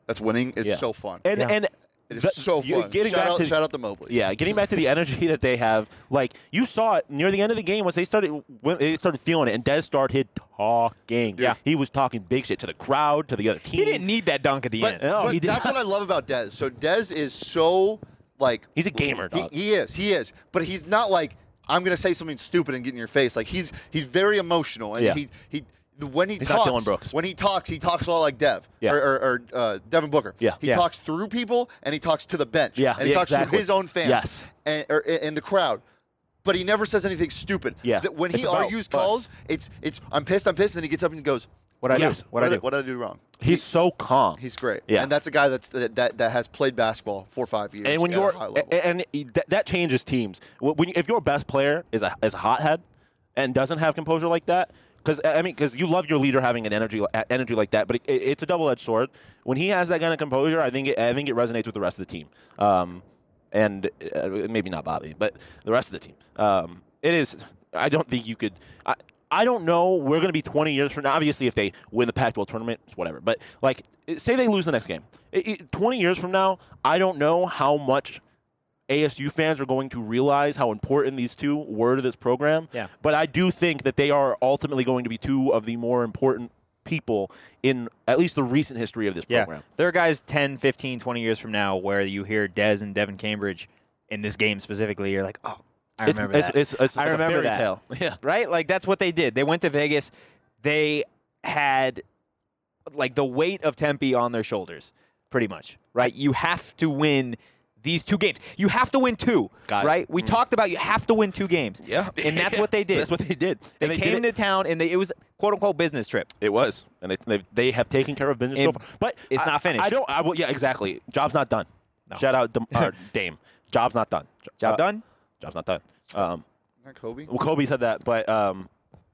that's winning is Yeah. so fun. And Yeah. and It is the- so you- fun. Getting shout back out, to shout out the Mobleys. yeah, getting back to the energy that they have. Like you saw it near the end of the game once they started when they started feeling it, and Dez started talking. Yeah. he was talking big shit to the crowd, to the other team. He didn't need that dunk at the But, end. No, but he did that's not. what I love about Dez. So Dez is so like He's a gamer, He, dog. he is. He is. But he's not like I'm gonna say something stupid and get in your face. Like he's he's very emotional, and Yeah. he he. When he He's not talks, Dylan Brooks. when he talks, he talks a lot like Dev Yeah. or, or, or uh, Devin Booker. Yeah. he Yeah. talks through people and he talks to the bench. Yeah, and he yeah, talks exactly. to his own fans. Yes. and or, and the crowd. But he never says anything stupid. Yeah. Th- when It's he about argues us. calls, it's it's I'm pissed, I'm pissed, and then he gets up and he goes, What I Yes. do? What I do? What did I do wrong? He's so calm. He's great. Yeah. And that's a guy that's that, that, that has played basketball for five years. and when at a you're high level. and, and that, that changes teams. When if your best player is a is a hothead and doesn't have composure like that, because I mean, because you love your leader having an energy energy like that, but it, it, it's a double edged sword. When he has that kind of composure, I think it, I think it resonates with the rest of the team, um, and uh, maybe not Bobby, but the rest of the team. Um, it is. I don't think you could. I, I don't know. We're going to be twenty years from now. Obviously, if they win the Pac twelve tournament, it's whatever. But like, say they lose the next game. It, it, twenty years from now, I don't know how much A S U fans are going to realize how important these two were to this program. Yeah. But I do think that they are ultimately going to be two of the more important people in at least the recent history of this Yeah. program. There are guys ten, fifteen, twenty years from now where you hear Dez and Devin Cambridge in this game specifically. You're like, oh, I It's, remember it's, that. it's, it's I like remember a fairy that. tale. Yeah. Right? Like, that's what they did. They went to Vegas. They had, like, the weight of Tempe on their shoulders, pretty much. Right? You have to win these two games. You have to win two. Got it. Right? We talked about you have to win two games. Yeah. And that's what they did. That's what they did. They, And did came it- to town, and they, it was, quote-unquote, business trip. It was, and they they, they have taken care of business so And far. But it's I- not finished. I don't. I will. Yeah, exactly. Job's not done. Shout out Dam- or Dame. Job's not done. Job Uh, done? Job's not done. Um, Not Kobe. well, Kobe said that, but um,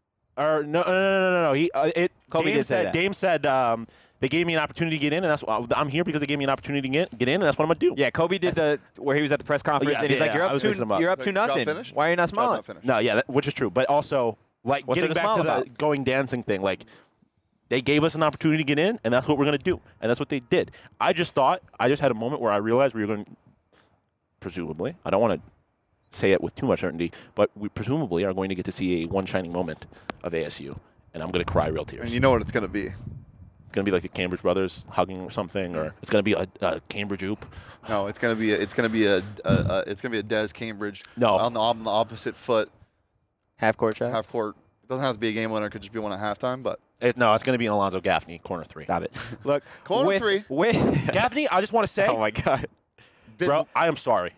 or no, no, no, no, no, no. He uh, it. Kobe Dame did say said. that. Dame said um, they gave me an opportunity to get in, and that's what I'm here because they gave me an opportunity to get, get in, and that's what I'm gonna do. Yeah, Kobe did the where he was at the press conference, Yeah, and he's yeah, like, "You're I up was to mixing them up. you're up Like, to job nothing. finished? Why are you not Job smiling?" not finished. No, yeah, that, which is true, but also like What's there getting to back smile to the about? going dancing thing, like. They gave us an opportunity to get in, and that's what we're going to do. And that's what they did. I just thought, I just had a moment where I realized we were going to, presumably, I don't want to say it with too much certainty, but we presumably are going to get to see a one shining moment of A S U, and I'm going to cry real tears. And you know what it's going to be. It's going to be like the Cambridge brothers hugging or something, or it's going to be a, a Cambridge oop. No, it's going to be a, it's going to be a, a, a it's going to be a Dez Cambridge No. on the, on the opposite foot Half court shot. half court. It doesn't have to be a game winner. It could just be one at halftime. But It, no, it's going to be an Alonzo Gaffney, corner three. Stop it. Look, Corner with, three. With Gaffney, I just want to say, oh my god. bit- bro, I am sorry.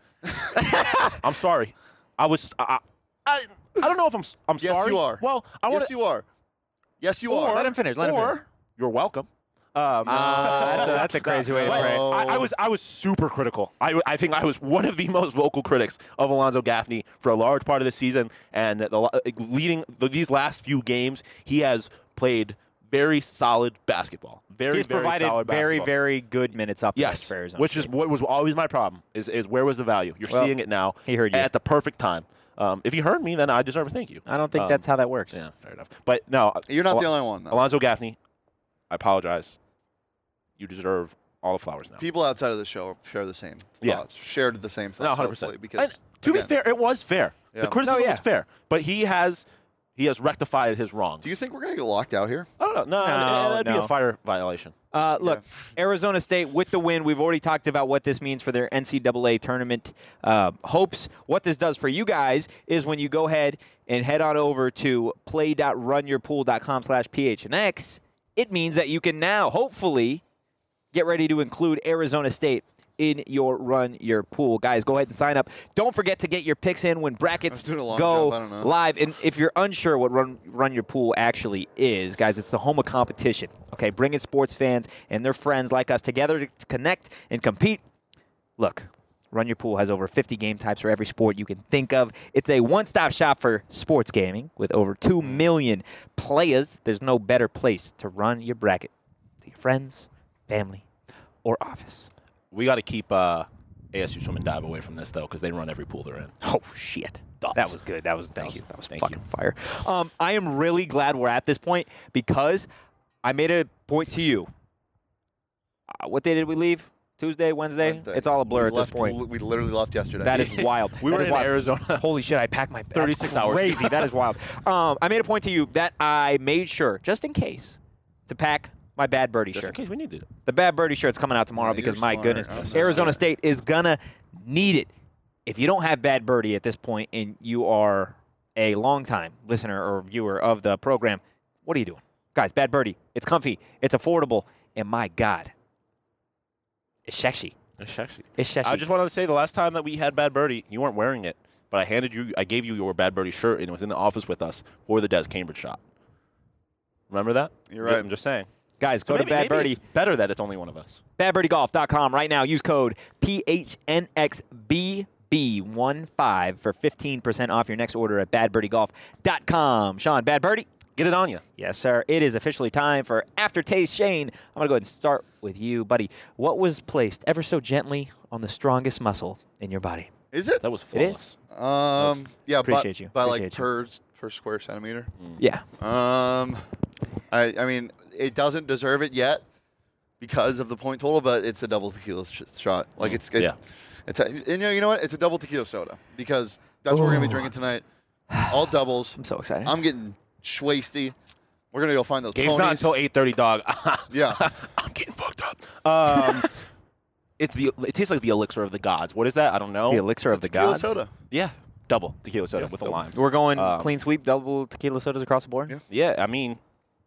I'm sorry. I was. I, I, I don't know if I'm. s- I'm Yes, sorry. you are. Well, I want yes, you are. Yes, you Or- are. Let him finish. Let him or finish. you're welcome. Um, Uh, that's a- that's a crazy way to but phrase it. I, I was I was super critical. I, I think I was one of the most vocal critics of Alonzo Gaffney for a large part of the season, and the, lo- leading the, these last few games, he has played very solid basketball. Very He's very provided solid very basketball. very good minutes up Yes, for Arizona. which is what was always my problem. Is is where was the value? You're Well, seeing it now. he heard you. at the perfect time. Um, if you heard me, then I deserve a thank you. I don't think Um, that's how that works. Yeah, fair enough. But no, You're not Al- the only one. Though. Alonzo Gaffney, I apologize. You deserve all the flowers now. People outside of the show share the same Yeah. thoughts. Shared the same No, thoughts. one hundred hopefully, percent. because And to again, be fair, it was fair. Yeah. The criticism No, yeah. was fair, but he has he has rectified his wrongs. do you think we're gonna get locked out here? I don't know. No, No, that'd be no. a fire violation. Uh, look, Arizona State with the win. We've already talked about what this means for their N C double A tournament uh, hopes. What this does for you guys is when you go ahead and head on over to play.runyourpool.com slash PHNX, it means that you can now hopefully get ready to include Arizona State in your Run Your Pool. Guys, go ahead and sign up. Don't forget to get your picks in when brackets doing a long go jump, I don't know. live. And if you're unsure what Run, Run Your Pool actually is, guys, it's the home of competition. Okay, bringing sports fans and their friends like us together to connect and compete. Look, Run Your Pool has over fifty game types for every sport you can think of. It's a one-stop shop for sports gaming with over two million players. There's no better place to run your bracket to your friends, family, or office. We got to keep uh, A S U Swim and Dive away from this though, because they run every pool they're in. Oh shit! Thoughts? That was good. That was Thank that you. Was, that was Thank fucking you. fire. Um, I am really glad we're at this point because I made a point to you. what day did we leave? Tuesday, Wednesday? Wednesday. It's all a blur we at left, this point. We literally left yesterday. That is wild. We That were is in wild. Arizona. Holy shit! I packed my thirty-six that's hours. Crazy. That is wild. Um, I made a point to you that I made sure, just in case, to pack my Bad Birdie Just in shirt. case we needed it. The Bad Birdie shirt's coming out tomorrow Yeah, because you're my smart. goodness, I'm so Arizona smart. State is gonna need it. If you don't have Bad Birdie at this point and you are a longtime listener or viewer of the program, what are you doing? Guys, Bad Birdie, it's comfy, it's affordable, and my God, it's sexy. It's sexy. It's sexy. I just wanted to say the last time that we had Bad Birdie, you weren't wearing it, but I handed you, I gave you your Bad Birdie shirt, and it was in the office with us for the Des Cambridge shot. Remember that? You're right. I'm just saying. Guys, So go maybe, to Bad maybe Birdie. it's better that it's only one of us. bad birdie golf dot com right now. Use code P H N X B B one five for fifteen percent off your next order at bad birdie golf dot com. Sean, Bad Birdie? Get it on you. Yes, sir. It is officially time for Aftertaste. Shane, I'm going to go ahead and start with you, buddy. What was placed ever so gently on the strongest muscle in your body? Is it? That was It is? flawless. Um, yeah, Appreciate by, you. by like Appreciate you. per per square centimeter. Yeah. Um, I I mean, it doesn't deserve it yet because of the point total, but it's a double tequila sh- shot. Like it's, it's Yeah. it's a, and you know, you know what? It's a double tequila soda because that's what we're gonna be drinking tonight. All doubles. I'm so excited. I'm getting schwasty. We're gonna go find those Game's ponies. not until eight thirty, dog. yeah. I'm getting fucked up. Um, it's the. It tastes like the elixir of the gods. What is that? I don't know. the elixir It's of a the tequila gods. soda. Yeah, double tequila soda Yeah, with the double. limes. We're going Um, clean sweep, double tequila sodas across the board? Yeah. Yeah, I mean,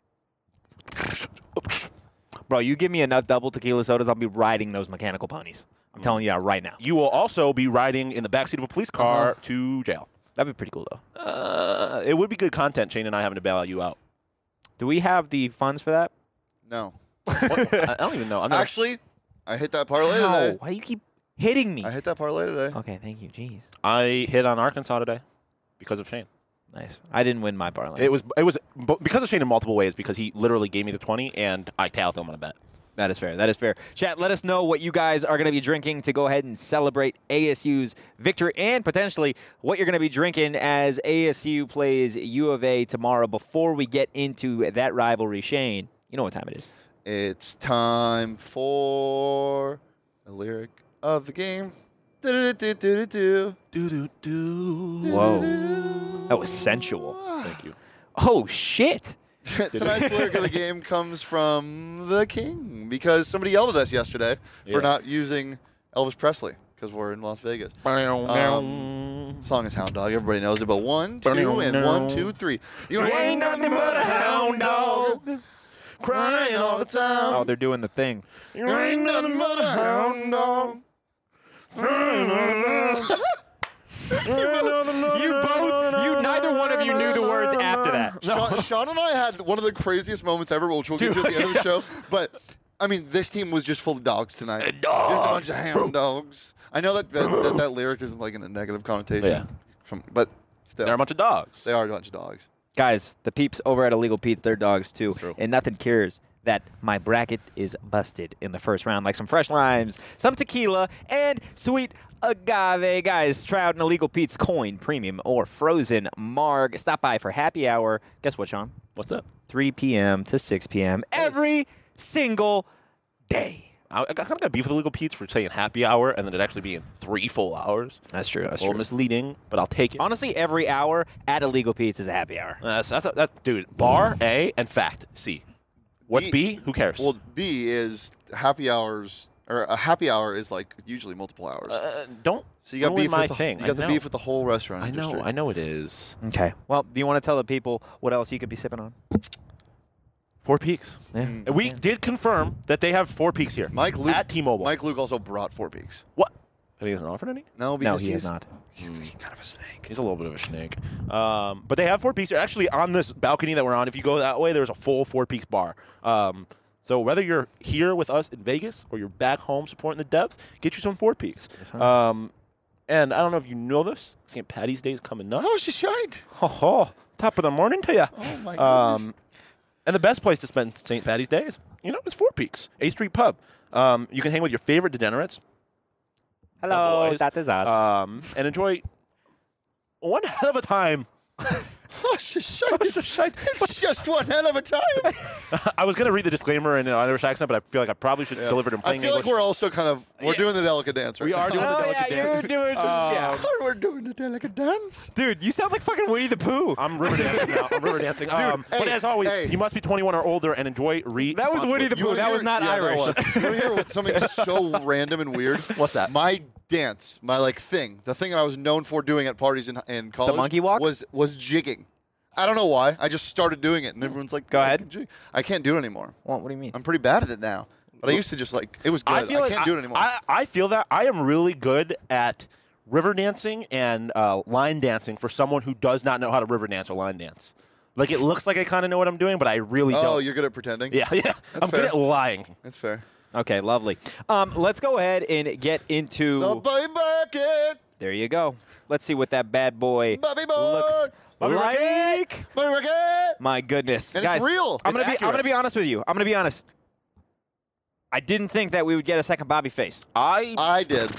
Bro, you give me enough double tequila sodas, I'll be riding those mechanical ponies. I'm telling you that right now. you will also be riding in the backseat of a police car Uh-huh. to jail. That'd be pretty cool, though. Uh, it would be good content, Shane and I having to bail you out. Do we have the funds for that? No. What? I I don't even know. I'm not, Actually, I hit that parlay How? today. Why do you keep hitting me? I hit that parlay today. Okay, thank you. Jeez. I hit on Arkansas today because of Shane. Nice. I didn't win my parlay. It was it was bu- because of Shane in multiple ways because he literally gave me the twenty and I tailed him on a bet. That is fair. That is fair. Chat, let us know what you guys are going to be drinking to go ahead and celebrate A S U's victory and potentially what you're going to be drinking as A S U plays U of A tomorrow. Before we get into that rivalry, Shane, you know what time it is. It's time for a lyric of the game. Do-do-do-do-do-do. Do do do. Whoa. That was sensual. Thank you. Oh, shit. Tonight's lyric of the game comes from the King because somebody yelled at us yesterday Yeah. for not using Elvis Presley because we're in Las Vegas. Um, song is Hound Dog. Everybody knows it. But one, two, and one, two, three. You ain't nothing but a hound dog, crying all the time. Oh, they're doing the thing. You ain't nothing but a hound dog. You both, you, neither one of you knew the words after that. Sean, Sean and I had one of the craziest moments ever, which we'll get to at the end of the show. But I mean, this team was just full of dogs tonight. Dogs. Just a bunch of hound dogs. I know that that, that, that lyric isn't like in a negative connotation, Yeah. from, but still, They're a bunch of dogs. they are a bunch of dogs. Guys, the peeps over at Illegal Pete's, they're dogs too. True. And nothing cures that my bracket is busted in the first round. Like some fresh limes, some tequila, and sweet agave. Guys, try out an Illegal Pete's coin, premium, or frozen marg. Stop by for happy hour. Guess what, Sean? What's that? three p.m. to six p.m. every single day. I, I kind of got beef with Illegal Pete's for saying happy hour and then it actually being three full hours. That's true. That's A little misleading, but I'll take it. Honestly, every hour at Illegal Pete's is a happy hour. That's that's a, that dude. Bar A and fact C. What's B- B? Who cares? Well, B is happy hours, or a happy hour is like usually multiple hours. uh, don't. so you got ruin beef my with the, thing. You I got the know. beef with the whole restaurant I industry. know. I know it is. Okay. Well, do you want to tell the people what else you could be sipping on? Four Peaks. Yeah. And we did confirm that they have Four Peaks here. Mike Luke at T-Mobile. Mike Luke also brought Four Peaks. What? And he hasn't offered any? No, because he he's has not. He's, he's kind of a snake. He's a little bit of a snake. Um, but they have Four Peaks. They're actually on this balcony that we're on. If you go that way, there's a full Four Peaks bar. Um, so whether you're here with us in Vegas or you're back home supporting the Devs, get you some Four Peaks. Yes, sir. um, and I don't know if you know this. Saint Patty's Day is coming up. Oh, she shined. Ho ho! Top of the morning to you. Oh my goodness. Um, and the best place to spend Saint Patty's Day is, you know, is Four Peaks, eighth Street Pub. Um, you can hang with your favorite degenerates. Hello, boys. that is us. Um, and enjoy one hell of a time It's just one hell of a time. I was going to read the disclaimer in an Irish accent, but I feel like I probably should Yeah. deliver it in plain I feel English. like we're also kind of we're doing the delicate dance. Right We are now. doing the Oh, delicate yeah, dance. you're doing some, yeah. We're doing the delicate dance. Dude, you sound like fucking Winnie the Pooh. I'm river dancing now. I'm river dancing. um, hey, but as always, hey. you must be twenty-one or older and enjoy re. That was Winnie the Pooh. wanna That was hear- not yeah, that Irish. was. You want to hear what- something so random and weird? What's that? My dance, my like thing, the thing that I was known for doing at parties in, in college. monkey walk? was was jigging. I don't know why. I just started doing it, and everyone's like, Go "Oh, I ahead." can jig." I can't do it anymore. Well, what do you mean? I'm pretty bad at it now. But I used to just like it was good. I feel like can't I, do it anymore. I, I feel that I am really good at river dancing and uh, line dancing for someone who does not know how to river dance or line dance. Like it looks like I kind of know what I'm doing, but I really oh, don't. you're good at pretending. Yeah, yeah. I'm fair. good at lying. That's fair. Okay, lovely. Um, let's go ahead and get into. The Bobby Bucket, There you go. Let's see what that bad boy Bobby Boy, looks Bobby like. Bobby Bucket. My goodness, And guys, it's real. I'm It's gonna be. I'm accurate. gonna be honest with you. I'm gonna be honest. I didn't think that we would get a second Bobby face. I I did.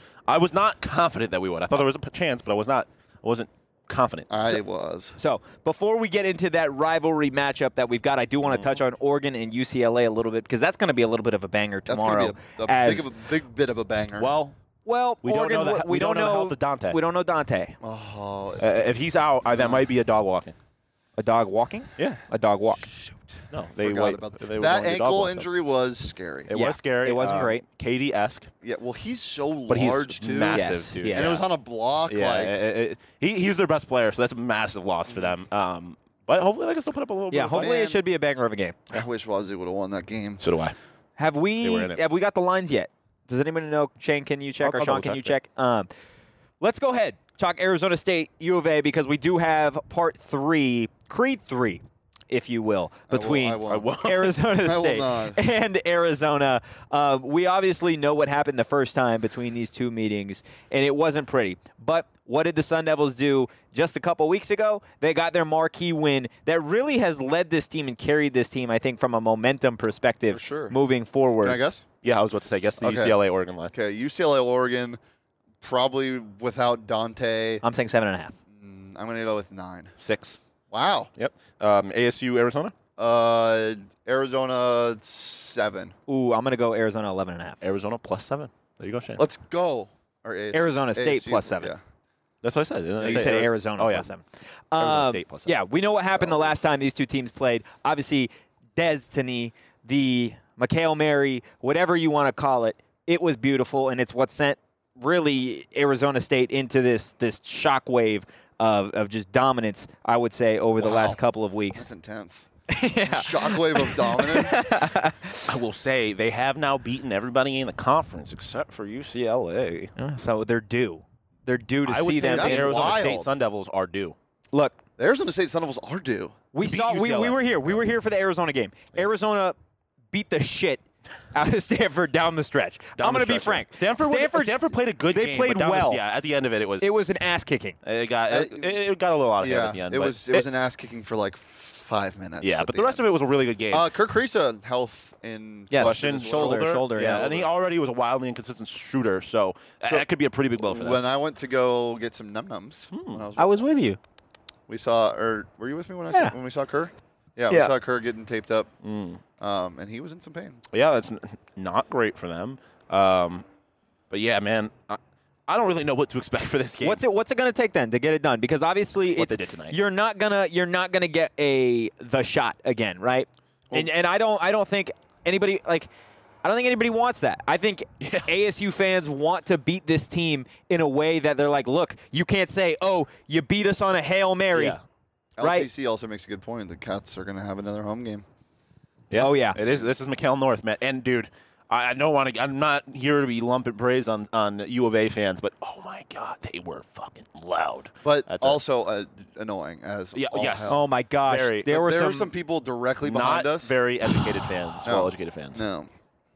I was not confident that we would. I thought there was a p- chance, but I was not. I wasn't confident. I was. So before we get into that rivalry matchup that we've got, I do want to touch on Oregon and U C L A a little bit because that's going to be a little bit of a banger That's tomorrow. gonna be a, a, as- big, of a big bit of a banger. Well, well, we don't Oregon's, know the- we, we don't don't know the know health of Dante. We don't know Dante. oh, uh, if he's out, uh, that might be a dog walking. A dog walking? Yeah. A dog walk. No, they forgot wait. about that. they were That going to dog ankle walk them. injury was scary. It Yeah, was scary. it wasn't um, great. Katie-esque, Yeah, well, he's so but he's large too, massive, Yes, dude. he is. and it was on a block. Yeah, like it- it- he, he's their best player, so that's a massive loss for them. Um, but hopefully they can still put up a little bit Yeah, of a fight. hopefully it Man. should be a banger of a game. I wish Wazoo would have won that game. So do I. Have They we were in it. have we got the lines yet? Does anybody know? Shane, can you check? I'll- or I'll Sean, double can you check, check? Um, let's go ahead. Talk Arizona State, U of A, because we do have part three, Creed three, if you will, will- between I will. I won't. Arizona I will State not. and Arizona. Um, we obviously know what happened the first time between these two meetings, and it wasn't pretty. But what did the Sun Devils do just a couple weeks ago? They got their marquee win that really has led this team and carried this team, I think, from a momentum perspective For sure. moving forward. Can I guess? Yeah, I was about to say, guess the Okay. U C L A Oregon line. Okay, U C L A, Oregon, probably without Dante. I'm saying seven and a half. Mm, I'm going to go with nine. Six. Wow. Yep. Um, A S U, Arizona? Uh, Arizona, seven. Ooh, I'm going to go Arizona eleven and a half. Arizona plus seven. There you go, Shane. Let's go. Or A S U. Arizona State A S U, plus seven. Yeah. That's what I said. didn't I You say said Ari- Arizona Oh, plus yeah. seven. Arizona Um, State plus seven. Yeah, we know what happened the last time these two teams played. Obviously, Destiny, the McHale Mary, whatever you want to call it, it was beautiful, and it's what sent really Arizona State into this this shockwave of, of just dominance, I would say, over the Wow. last couple of weeks. That's intense. yeah. Shockwave of dominance. I will say they have now beaten everybody in the conference except for U C L A. So they're due. They're due to I would see say them. the That's in- Arizona wild. State Sun Devils are due. Look, The Arizona State Sun Devils are due. we To beat saw we, we U C L A. were here. We were here for the Arizona game. Arizona beat the shit out of Stanford down the stretch. Down I'm the going to be stretch, frank. yeah. Stanford, was- Stanford, Stanford played a good they game. played but down the- well. yeah, at the end of it, it was it was an ass kicking. it got Uh, it, it got a little out of hand Yeah, at the end. it but was it was an ass kicking for like five minutes. yeah, at but the rest of it was a really good game. Uh, Kirk Risa, health in Yes, question Question, as well. shoulder, shoulder, yeah, yeah. and he already was a wildly inconsistent shooter, so, So, that could be a pretty big blow for them. When I went to go get some num nums, when I was, I was with you. we saw, or were you with me when I Yeah. saw, when we saw Kerr? Yeah, Yeah. we saw Kerr getting taped up, Mm. um, and he was in some pain. Yeah, that's n- not great for them. Um, but yeah, man, I, I don't really know what to expect for this game. What's it What's it going to take then to get it done? Because obviously, What it's, they did tonight. You're not gonna you're not gonna get a the shot again, right? and and I don't I don't think anybody like. I don't think anybody wants that. I think Yeah. A S U fans want to beat this team in a way that they're like, look, you can't say, oh, you beat us on a Hail Mary. Yeah. Right. L T C also makes a good point. The Cats are going to have another home game. Yeah. Oh, yeah. It is. This is McHale North, man. And dude, I, I don't want to. I'm not here to be lumping praise on on U of A fans, but oh my god, they were fucking loud. But At the- also uh, annoying as Yeah, all yes. hell. Oh my gosh, Very. there were there some, were some people directly Not behind us. very educated fans, No. well-educated fans. No.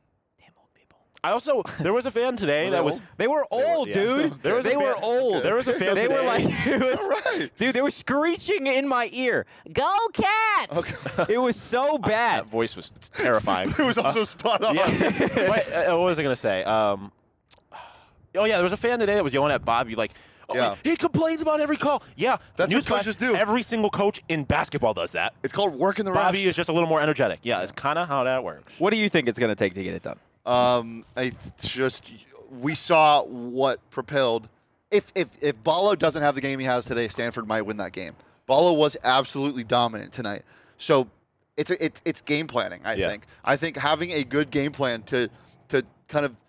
I also there was a fan today Were they that was. old? They were old, yeah. dude. There was a they fan- were old. There was a fan They were today- like, it was, All right. dude. They were screeching in my ear. Go Cats! It was so bad. That voice was terrifying. It was also spot on. Yeah. Wait, uh, what was I going to say? Um, oh, yeah, there was a fan today that was yelling at Bobby, like, Oh, Yeah. he complains about every call. Yeah, That's what newsflash, coaches do. Every single coach in basketball does that. It's called working the refs. Bobby is just a little more energetic. Yeah, it's kind of how that works. What do you think it's going to take to get it done? Um, I th- just we saw what propelled. If if if Ballo doesn't have the game he has today, Stanford might win that game. Ballo was absolutely dominant tonight. So it's a, it's it's game planning. I Yeah. think. I think having a good game plan to to kind of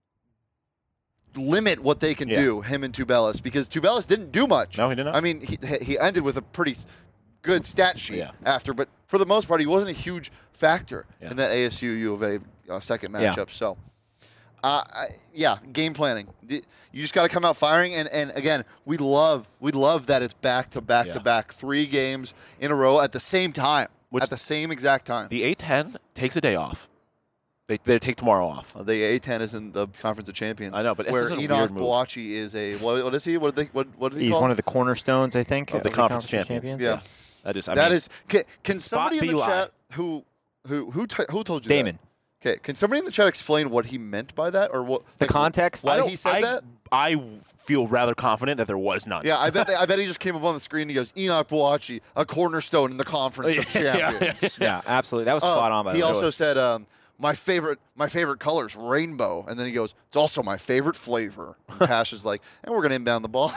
limit what they can Yeah. do, him and Tubelis, because Tubelis didn't do much. No, he did not. I mean, he he ended with a pretty good stat sheet Yeah. after, but for the most part, he wasn't a huge factor Yeah. in that A S U U of A uh, second Yeah. matchup. So. Uh, I, yeah, game planning. You just got to come out firing, and, and again, we love we love that it's back to back Yeah. to back, three games in a row at the same time, Which- at the same exact time. The A ten takes a day off. They they take tomorrow off. Uh, the A ten is in the Conference of Champions. I know, but it's where just a Enoch weird move. Boachi is a what, what is he? What did they what what did he He's call? one of the cornerstones, I think, Of the Conference Champions. yeah, That is. I that mean, is. Can, can somebody in the Beli. chat who who who t- who told you Damon. that? Okay, can somebody in the chat explain what he meant by that, or what The like, context? Why I don't- he said I, that? I feel rather confident that there was none. Yeah, I bet they, I bet he just came up on the screen and he goes, Enoch Boachi, a cornerstone in the Conference of Yeah, Champions. Yeah, absolutely. That was Uh, spot on by he the way. also said, um, my favorite my favorite color is rainbow. And then he goes, it's also my favorite flavor. And Pash is like, and we're going to inbound the ball.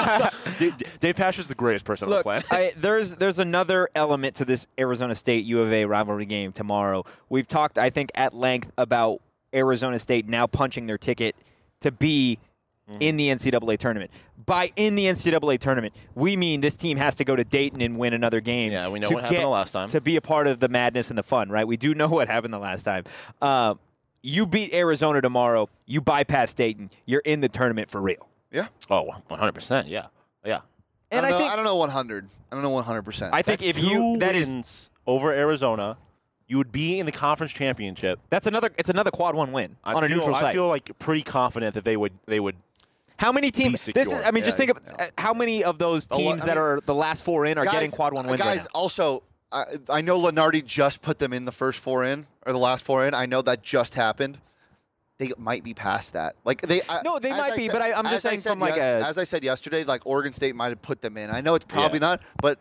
Dave, Dave Pash is the greatest person Look, on the planet. I, there's there's another element to this Arizona State U of A rivalry game tomorrow. We've talked, I think, at length about Arizona State now punching their ticket to be in the N C double A tournament. By in the N C double A tournament, we mean this team has to go to Dayton and win another game. Yeah, we know to what happened get- the last time. To be a part of the madness and the fun, right? We do know what happened the last time. Um, you beat Arizona tomorrow. You bypass Dayton. You're in the tournament for real. yeah. Oh, one hundred percent. Yeah. Yeah. And I, I, don't know, think I don't know one hundred. I don't know one hundred percent. I think That's if you two that is wins over Arizona, you would be in the conference championship. that's another it's another quad one win I on a feel, neutral I site. feel like pretty confident that they would they would How many teams? Be This is. secure. I mean, just Yeah, think of yeah. uh, how many of those A lot- teams I that mean, are the last four in are guys, getting quad one uh, wins Guys, right now. also, I, I know Lenardi just put them in the first four in, or the last four in. I know that just happened. They might be past that. Like they. I- No, they as might I be, said- but I- I'm just as I saying said from like yes- a- As I said yesterday, like Oregon State might have put them in. I know it's probably Yeah. not, but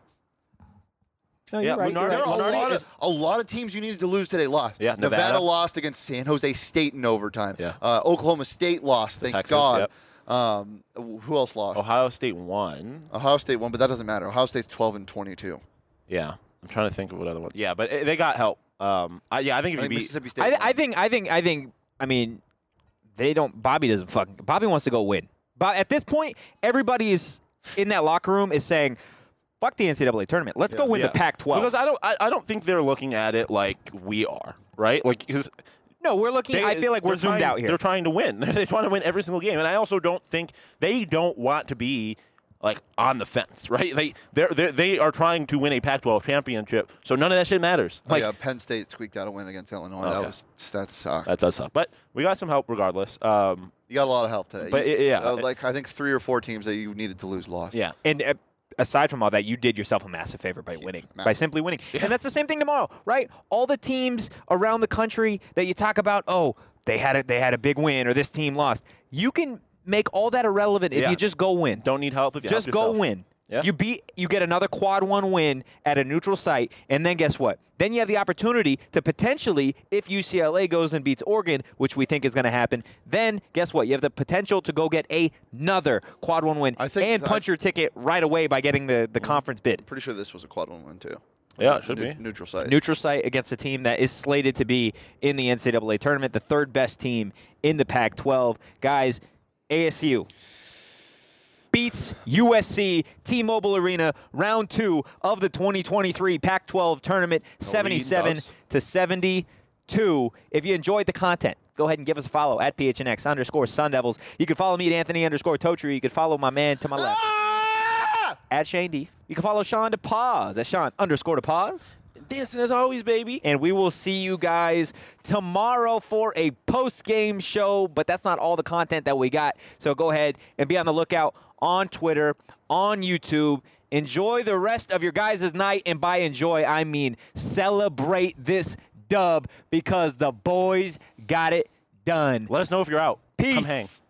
No, Yeah, you're right. Lunardi- you're there right. are a Lenardi lot, is- of, a lot of teams you needed to lose today lost. Yeah, Nevada. lost against San Jose State in overtime. Yeah. Uh, Oklahoma State lost. Thank Texas, God. yep. Um, who else lost? Ohio State won. Ohio State won, but that doesn't matter. Ohio State's twelve and twenty-two. Yeah. I'm trying to think of what other one. Yeah, but eh, they got help. Um, I, yeah, I think if I you think beat Mississippi State. I, won. I think. I think. I think. I mean, they don't. Bobby doesn't fucking. Bobby wants to go win. But at this point, everybody is in that locker room is saying, "Fuck the N C double A tournament. Let's go win Yeah. the Pac twelve." because I don't I, I don't think they're looking at it like we are, right? Like because no, we're looking. They- I feel like we're they're zoomed trying- out here. They're trying to win. They're trying to win every single game, and I also don't think they don't want to be like on the fence, right? They they're, they're they are trying to win a Pac twelve championship, so none of that shit matters. Oh, Like yeah, Penn State squeaked out a win against Illinois. That Okay. was that sucked. that does suck, but we got some help regardless. Um, You got a lot of help today. But You- it- yeah. uh, like I think three or four teams that you needed to lose lost. yeah, And uh, aside from all that, you did yourself a massive favor by winning, by massive. simply winning. And that's the same thing tomorrow, right? All the teams around the country that you talk about, oh, they had a, they had a big win or this team lost. You can make all that irrelevant if Yeah. you just go win. don't need help if you just help go yourself. win. Yeah. You beat. You get another quad one win at a neutral site, and then guess what? Then you have the opportunity to potentially, if U C L A goes and beats Oregon, which we think is going to happen, then guess what? You have the potential to go get another quad one win I think and that- punch your ticket right away by getting the, the conference bid. Pretty sure this was a quad one win too. Yeah, it should Ne- be. neutral site. Neutral site against a team that is slated to be in the N C double A tournament, the third best team in the Pac twelve. Guys, A S U beats U S C T-Mobile Arena, round two of the twenty twenty-three Pac twelve tournament, seventy-seven does. to seventy-two. If you enjoyed the content, go ahead and give us a follow at P H N X underscore Sun Devils. You can follow me at Anthony underscore Totri. You can follow my man to my left Ah! at Shane D. You can follow Sean DePaz at Sean underscore DePaz. Dancing as always, baby. And we will see you guys tomorrow for a post-game show, but that's not all the content that we got. So go ahead and be on the lookout on Twitter, on YouTube. Enjoy the rest of your guys' night, and by enjoy, I mean celebrate this dub because the boys got it done. Let us know if you're out. Peace. Come hang.